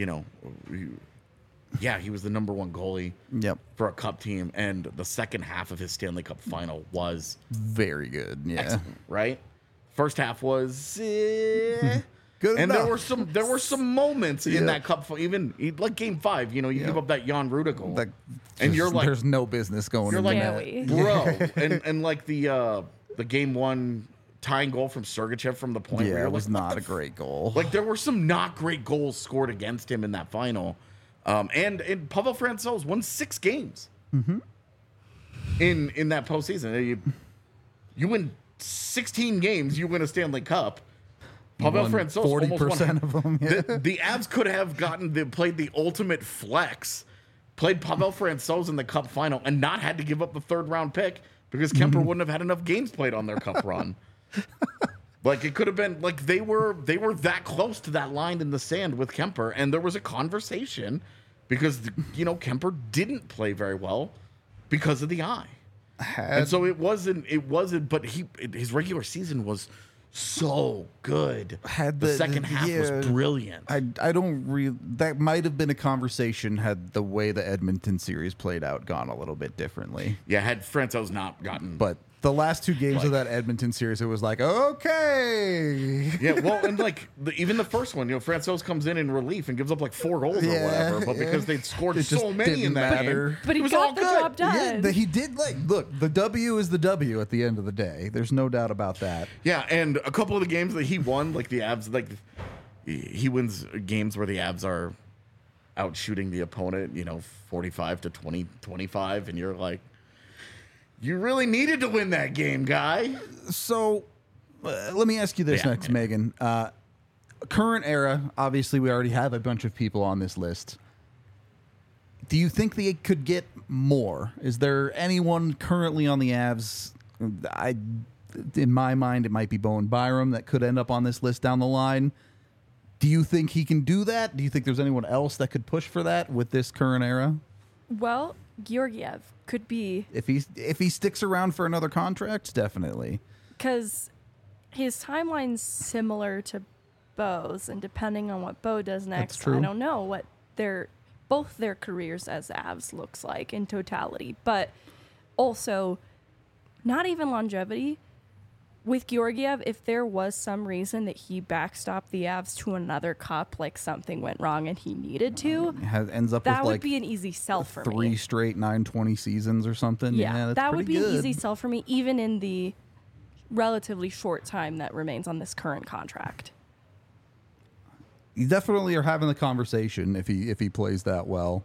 he was the number one goalie Yep. for a cup team, and the second half of his Stanley Cup final was Very good. Yeah. excellent, right? First half was Good and enough. there were some moments in Yeah. that cup even like game 5, you give up that Jan Ruda goal. Like, And you're like- there's no business going You're in like, Can't that. we? bro, and like the game 1 tying goal from Sergachev from the point where Yeah, you're it was like, what not the a great goal. Like there were some not great goals scored against him in that final, And Pavel Francouz won 6 games in that postseason. You win 16 games, you win a Stanley Cup. Pavel won Francouz 40% of them. Yeah. The Avs could have played the ultimate flex, played Pavel Francouz in the Cup final, and not had to give up the 3rd round pick because Kemper wouldn't have had enough games played on their Cup run. Like it could have been like they were that close to that line in the sand with Kemper, and there was a conversation because Kemper didn't play very well because of the eye, and so it wasn't. But his regular season was so good. The second half was brilliant. I don't that might have been a conversation had the way the Edmonton series played out gone a little bit differently. Yeah, had Francouz not gotten, But the last 2 games of that Edmonton series, it was like, okay. yeah, well, and even the first one, Francouz comes in relief and gives up like 4 goals or whatever, but because they'd scored It so just many in didn't that matter. game, But he it was all got the good. job done. Yeah, he did. Look, the W is the W at the end of the day. There's no doubt about that. Yeah, and a couple of the games that he won, like the Avs, he wins games where the Avs are out shooting the opponent, 45 to 20, 25, and you're like, you really needed to win that game, guy. So let me ask you this Yeah, next, man. Megan. Current era, obviously, we already have a bunch of people on this list. Do you think they could get more? Is there anyone currently on the Avs? In my mind, it might be Bowen Byram that could end up on this list down the line. Do you think he can do that? Do you think there's anyone else that could push for that with this current era? Well, Georgiev could be, If he sticks around for another contract, definitely. because his timeline's similar to Bo's, and depending on what Bo does next, true. I don't know what both their careers as Avs looks like in totality. But also, not even longevity. With Georgiev, if there was some reason that he backstopped the Avs to another cup, like something went wrong and he needed to, Ends up that with would like be an easy sell for 3 me. straight 920 seasons or something. Yeah, that's that would pretty be good. an easy sell for me, even in the relatively short time that remains on this current contract. You definitely are having the conversation if he plays that well.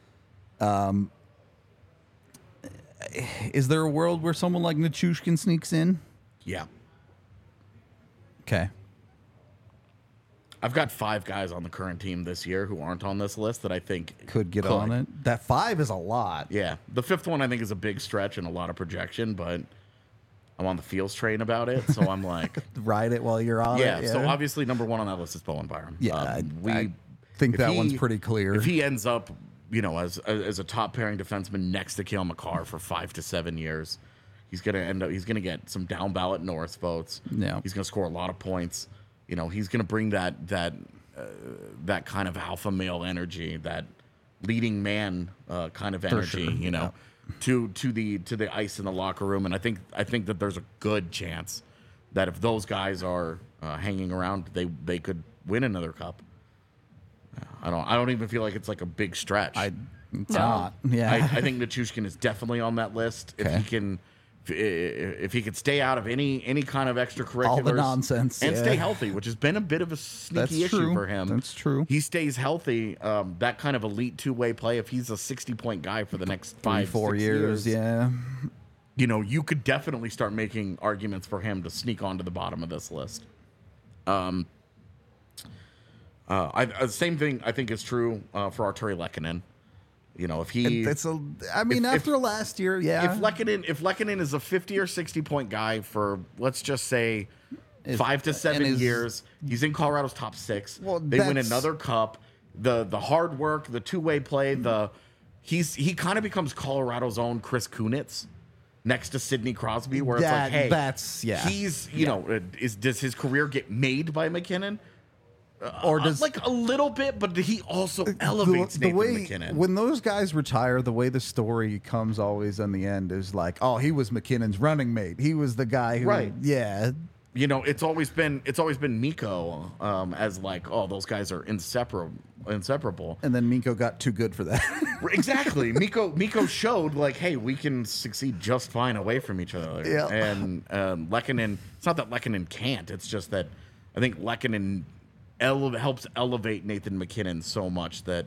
Is there a world where someone like Nichushkin sneaks in? Yeah. Okay. I've got 5 guys on the current team this year who aren't on this list that I think Could get on it. That 5 is a lot. Yeah. The 5th one I think is a big stretch and a lot of projection, but I'm on the Fields train about it, so I'm like, Ride it while you're on yeah. it. So obviously number 1 on that list is Bowen Byram. Yeah, I think if that he- one's pretty clear. If he ends up, as a top pairing defenseman next to Cale Makar for 5 to 7 years, he's gonna get some down ballot Norris votes. Yeah. He's gonna score a lot of points. He's gonna bring that kind of alpha male energy, that leading man kind of energy, sure. to the ice in the locker room. And I think that there's a good chance that if those guys are hanging around, they could win another cup. I don't even feel like it's like a big stretch. It's No. not. Yeah. I think Nichushkin is definitely on that list. Okay. If he could stay out of any kind of extracurriculars, All the nonsense, and yeah. stay healthy, which has been a bit of a sneaky That's issue true. for him. That's true. He stays healthy. That kind of elite 2-way play. If he's a 60-point guy for the next 3-4 5-6 years. Yeah. you could definitely start making arguments for him to sneak onto the bottom of this list. Same thing I think is true for Arturi Lehkonen. If he After last year, yeah. if Lehkonen is a 50 or 60 point guy for, let's just say, 5 to 7 years, he's in Colorado's top 6. Well, they win that's- another cup. The hard work, the 2-way play, he kind of becomes Colorado's own Chris Kunitz next to Sidney Crosby, where it's like, hey, he's does his career get made by McKinnon? Or does Like a little bit, but he also elevates the Nathan way McKinnon. when those guys retire, the way the story comes always in the end is like, oh, he was McKinnon's running mate. He was the guy who, Right. Yeah, It's always been Mikko as like, oh, those guys are inseparable. and then Mikko got too good for that. Exactly. Mikko showed like, hey, we can succeed just fine away from each other. Yeah. And Lehkonen, it's not that Lehkonen can't. It's just that I think Lehkonen helps elevate Nathan McKinnon so much that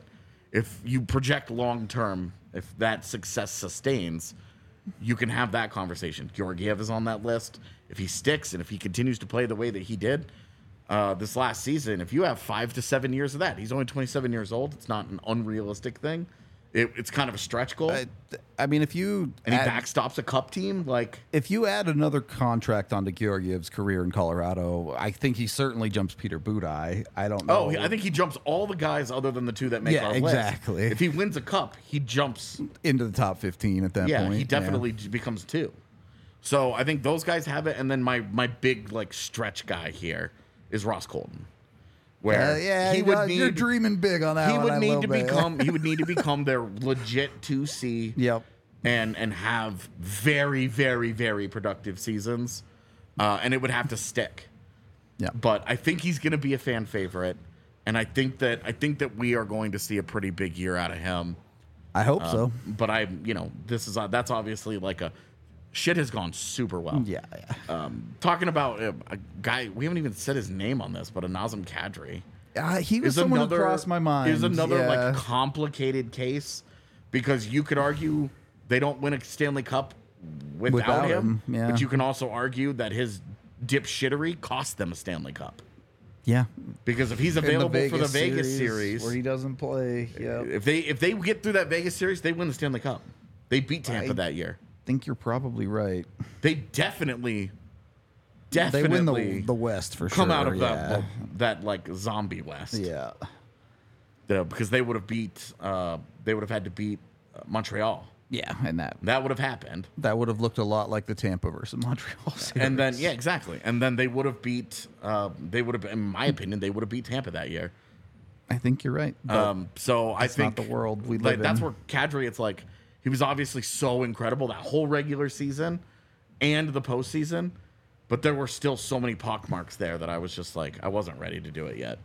if you project long term, if that success sustains, you can have that conversation. Georgiev is on that list. If he sticks and if he continues to play the way that he did this last season, if you have 5 to 7 years of that, he's only 27 years old. It's not an unrealistic thing. It's kind of a stretch goal. I mean, if you and he backstops a cup team, like if you add another contract onto Georgiev's career in Colorado, I think he certainly jumps Peter Budaj. I don't know. I think he jumps all the guys other than the two that make Yeah, our exactly. list. If he wins a cup, he jumps. Into the top 15 at that point. Yeah, he definitely becomes 2. So I think those guys have it, and then my big like stretch guy here is Ross Colton, where you're dreaming big on that. he one would a need little to bit. become he would need to become their legit 2C. Yep. And have very, very, very productive seasons, and it would have to stick. Yeah. But I think he's going to be a fan favorite, and I think that we are going to see a pretty big year out of him. I hope so. But that's obviously like shit has gone super well. Yeah. Talking about a guy, we haven't even said his name on this, but a Nazem Kadri. He was someone who crossed my mind. Is another Yeah. like complicated case because you could argue they don't win a Stanley Cup without him. yeah. But you can also argue that his dipshittery cost them a Stanley Cup. Yeah. Because if he's available for the Vegas series, where he doesn't play, yeah. if they get through that Vegas series, they win the Stanley Cup. They beat Tampa that year. I think you're probably right. They definitely They win the West for come sure. out of yeah. that like zombie West. Yeah. Because they would have had to beat Montreal. Yeah, and That would have happened. that would have looked a lot like the Tampa versus Montreal series. And then exactly. And then they would have beat in my opinion, they would have beat Tampa that year. I think you're right. but So I think not the world we like live that's in. where Kadri, it's like he was obviously so incredible that whole regular season and the postseason, but there were still so many pockmarks there that I was just like I wasn't ready to do it yet.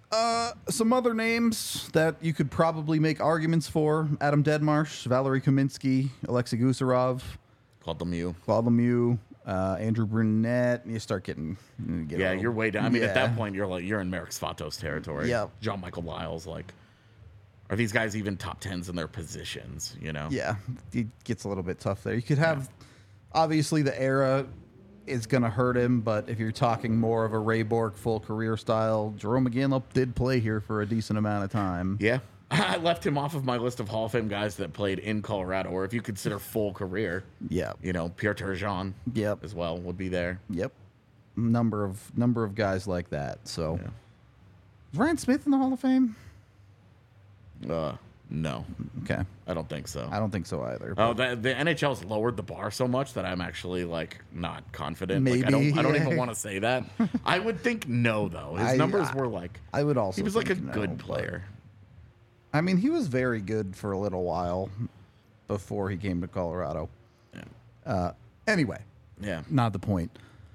Some other names that you could probably make arguments for: Adam Deadmarsh, Valerie Kaminsky, Alexei Gusarov, Called Lemieux. Claude Lemieux, Andrew Brunette. You start getting Yeah, you're way down. I mean, at Yeah. that point, you're in Merrick Svatos territory. Yep. John Michael Lyles, like, are these guys even top 10s in their positions? You know? Yeah, it gets a little bit tough there. You could have, obviously, the era is going to hurt him, but if you're talking more of a Ray Bork full career style, Jerome McGinley did play here for a decent amount of time. Yeah. I left him off of my list of Hall of Fame guys that played in Colorado, or if you consider full career, Yeah. Pierre Turgeon Yep. as well would be there. Yep. Number of guys like that. So, is Ryan Smith in the Hall of Fame? No, Okay, I don't think so. I don't think so either. Oh, the NHL's lowered the bar so much that I'm actually like not confident. Maybe, like, I don't yeah. even want to say that. I would think no though. His I- numbers were like I would also. he was like a think no, good but- player. I mean, he was very good for a little while before he came to Colorado. Anyway, Yeah. not the point.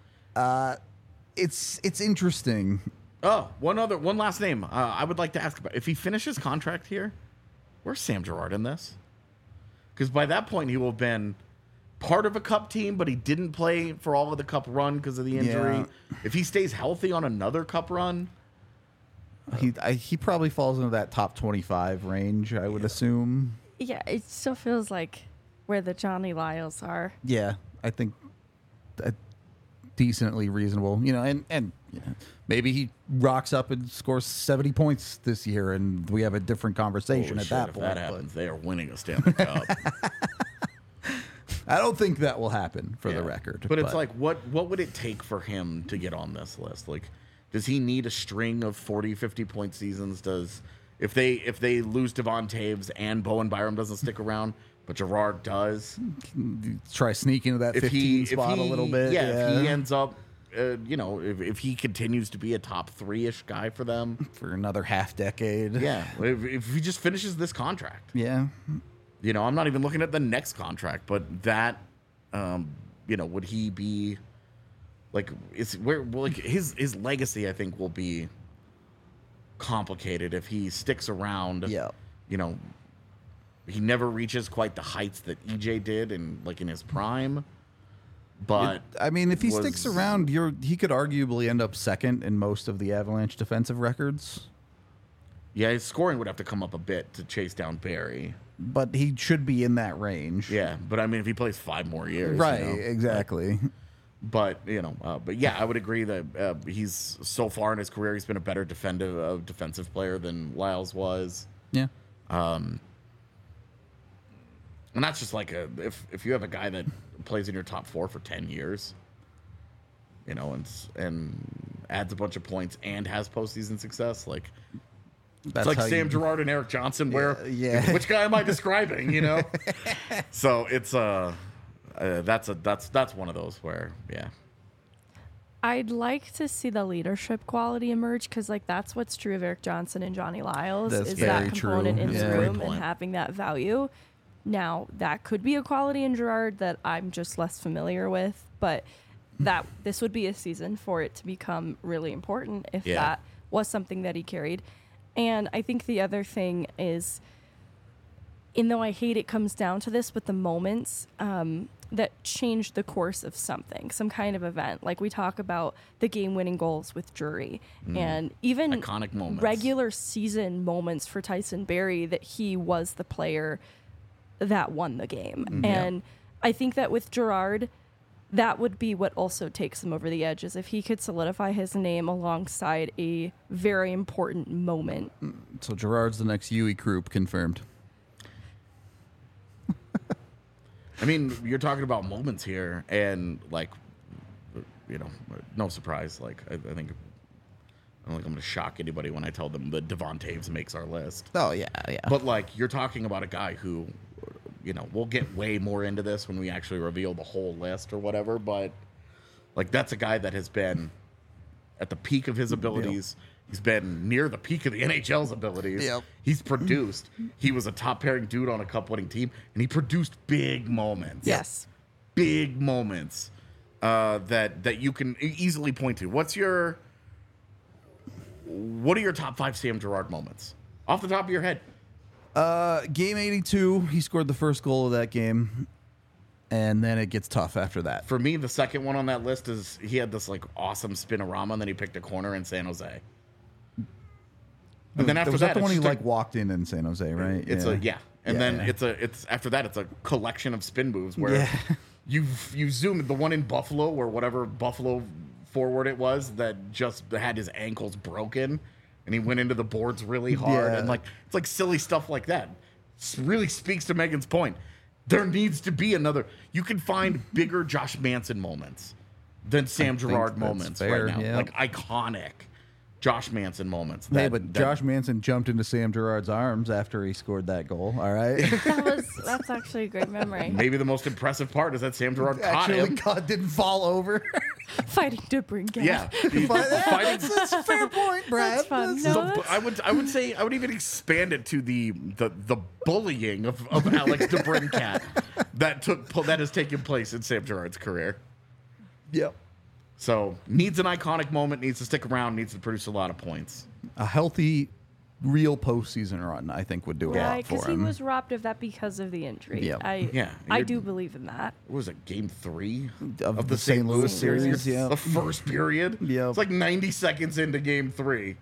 It's interesting. Oh, one last name. I would like to ask about if he finishes contract here. Where's Sam Girard in this? Because by that point he will have been part of a Cup team, but he didn't play for all of the Cup run because of the injury. Yeah. If he stays healthy on another Cup run, He probably falls into that top 25 range, I would assume. Yeah, it still feels like where the Johnny Lyles are. Yeah, I think decently reasonable. And maybe he rocks up and scores 70 points this year, and we have a different conversation holy at shit, that if point. that happens, they are winning a Stanley Cup. I don't think that will happen for the Yeah. record. But it's like, what would it take for him to get on this list? Like, does he need a string of 40, 50-point seasons? If they lose Devon Taves and Bowen Byram doesn't stick around, but Girard does, try sneaking into that 15 spot a little bit. if he ends up, if he continues to be a top 3-ish guy for them, for another half decade. yeah, if he just finishes this contract, Yeah. I'm not even looking at the next contract, but that, would he be like? His legacy? I think will be complicated if he sticks around. Yeah. He never reaches quite the heights that EJ did in his prime. But I mean, if he was- sticks around, he could arguably end up second in most of the Avalanche defensive records. Yeah, his scoring would have to come up a bit to chase down Barry. but he should be in that range. Yeah, but I mean, if he plays 5 more years, Right, you know, exactly. But but yeah, I would agree that he's so far in his career, he's been a better defensive player than Lyles was. Yeah. And that's just like if you have a guy that plays in your top 4 for 10 years, and adds a bunch of points and has postseason success, like That's it's like how Sam you- Girard and Eric Johnson. Where yeah. which guy am I describing? So it's that's one of those where I'd like to see the leadership quality emerge because, like, that's what's true of Eric Johnson and Johnny Lyles That's is very that component true. in Yeah. the Great room and point. having that value. Now, that could be a quality in Gerard that I'm just less familiar with, but that this would be a season for it to become really important if Yeah. that was something that he carried. And I think the other thing is, and though I hate it comes down to this, but the moments that change the course of something, some kind of event. Like we talk about the game-winning goals with Drury, and even Iconic moments. regular season moments for Tyson Barrie that he was the player that won the game. And I think that with Gerard, that would be what also takes him over the edge, is if he could solidify his name alongside a very important moment. So Gerard's the next Huey Croup, confirmed. I mean, you're talking about moments here, and like, no surprise. Like, I don't think I'm going to shock anybody when I tell them that Devon Taves makes our list. Oh, yeah. But like, you're talking about a guy who, we'll get way more into this when we actually reveal the whole list or whatever. But like, that's a guy that has been at the peak of his abilities. He's been near the peak of the NHL's abilities. Yep. He's produced. He was a top pairing dude on a cup-winning team, and he produced big moments. Yes. Big moments that you can easily point to. What are your top 5 Sam Girard moments off the top of your head? Game 82, he scored the first goal of that game, and then it gets tough after that. For me, the second one on that list is he had this like awesome spinorama, and then he picked a corner in San Jose. And then after was that, the one he it's just like walked in San Jose, right? It's and then it's after that it's a collection of spin moves where you zoom the one in Buffalo or whatever Buffalo forward it was that just had his ankles broken and he went into the boards really hard and like it's like silly stuff like that. Really speaks to Megan's point. There needs to be another. You can find bigger Josh Manson moments than Sam Girard that's moments fair, right now. yeah. Like iconic Josh Manson moments. Hey, but Josh Manson jumped into Sam Girard's arms after he scored that goal. All right. That's actually a great memory. Maybe the most impressive part is that Sam Girard caught him. God didn't fall over. Fighting DeBrincat. Yeah, That's a fair point, Brad. That's fun. That's- No, So, I would say I would even expand it to the bullying of Alex DeBrincat that has taken place in Sam Girard's career. Yep. So needs an iconic moment, needs to stick around, needs to produce a lot of points. A healthy, real postseason run, I think, would do a lot Right, because for he him. was robbed of that because of the injury. Yep. I you're- do believe in that. What was it, game 3 Of the the St. Louis series, yeah. The first period. Yep. It's like 90 seconds into game 3.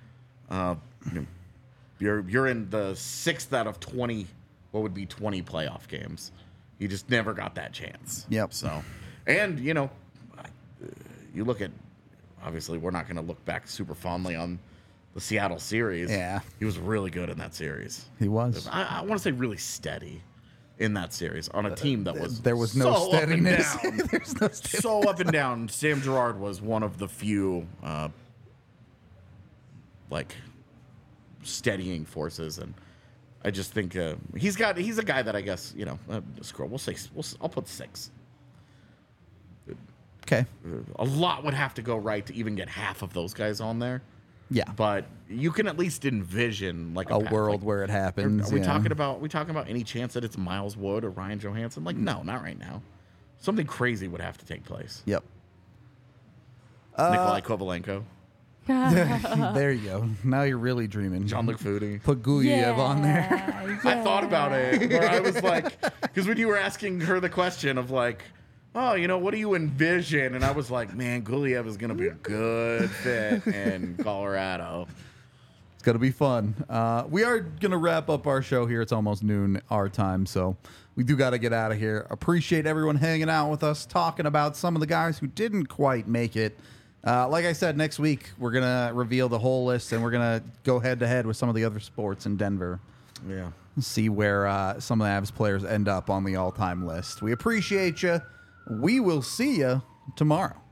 You're in the 6th out of 20, what would be 20 playoff games. You just never got that chance. Yep. So, and you look at, obviously we're not going to look back super fondly on the Seattle series. Yeah. He was really good in that series. He was. I want to say really steady in that series on a team that was There was no so up and steadiness. down. There's no steadiness. So up and down. Sam Girard was one of the few like steadying forces, and I just think he's a guy that I guess scroll. I'll put 6. Okay. A lot would have to go right to even get half of those guys on there. Yeah. But you can at least envision like A path. world Like, where it happens. Are we yeah. talking about any chance that it's Miles Wood or Ryan Johansson? Like, no, not right now. Something crazy would have to take place. Yep. Nikolai Kovalenko, There you go. Now you're really dreaming. Jean-Luc Foudy. Put Guyev on there. I thought about it. Where I was like, because when you were asking her the question of like, oh, what do you envision? And I was like, man, Guliev is going to be a good fit in Colorado. It's going to be fun. We are going to wrap up our show here. It's almost noon our time, so we do got to get out of here. Appreciate everyone hanging out with us, talking about some of the guys who didn't quite make it. Like I said, next week we're going to reveal the whole list, and we're going to go head-to-head with some of the other sports in Denver. Yeah. See where some of the Avs players end up on the all-time list. We appreciate you. We will see you tomorrow.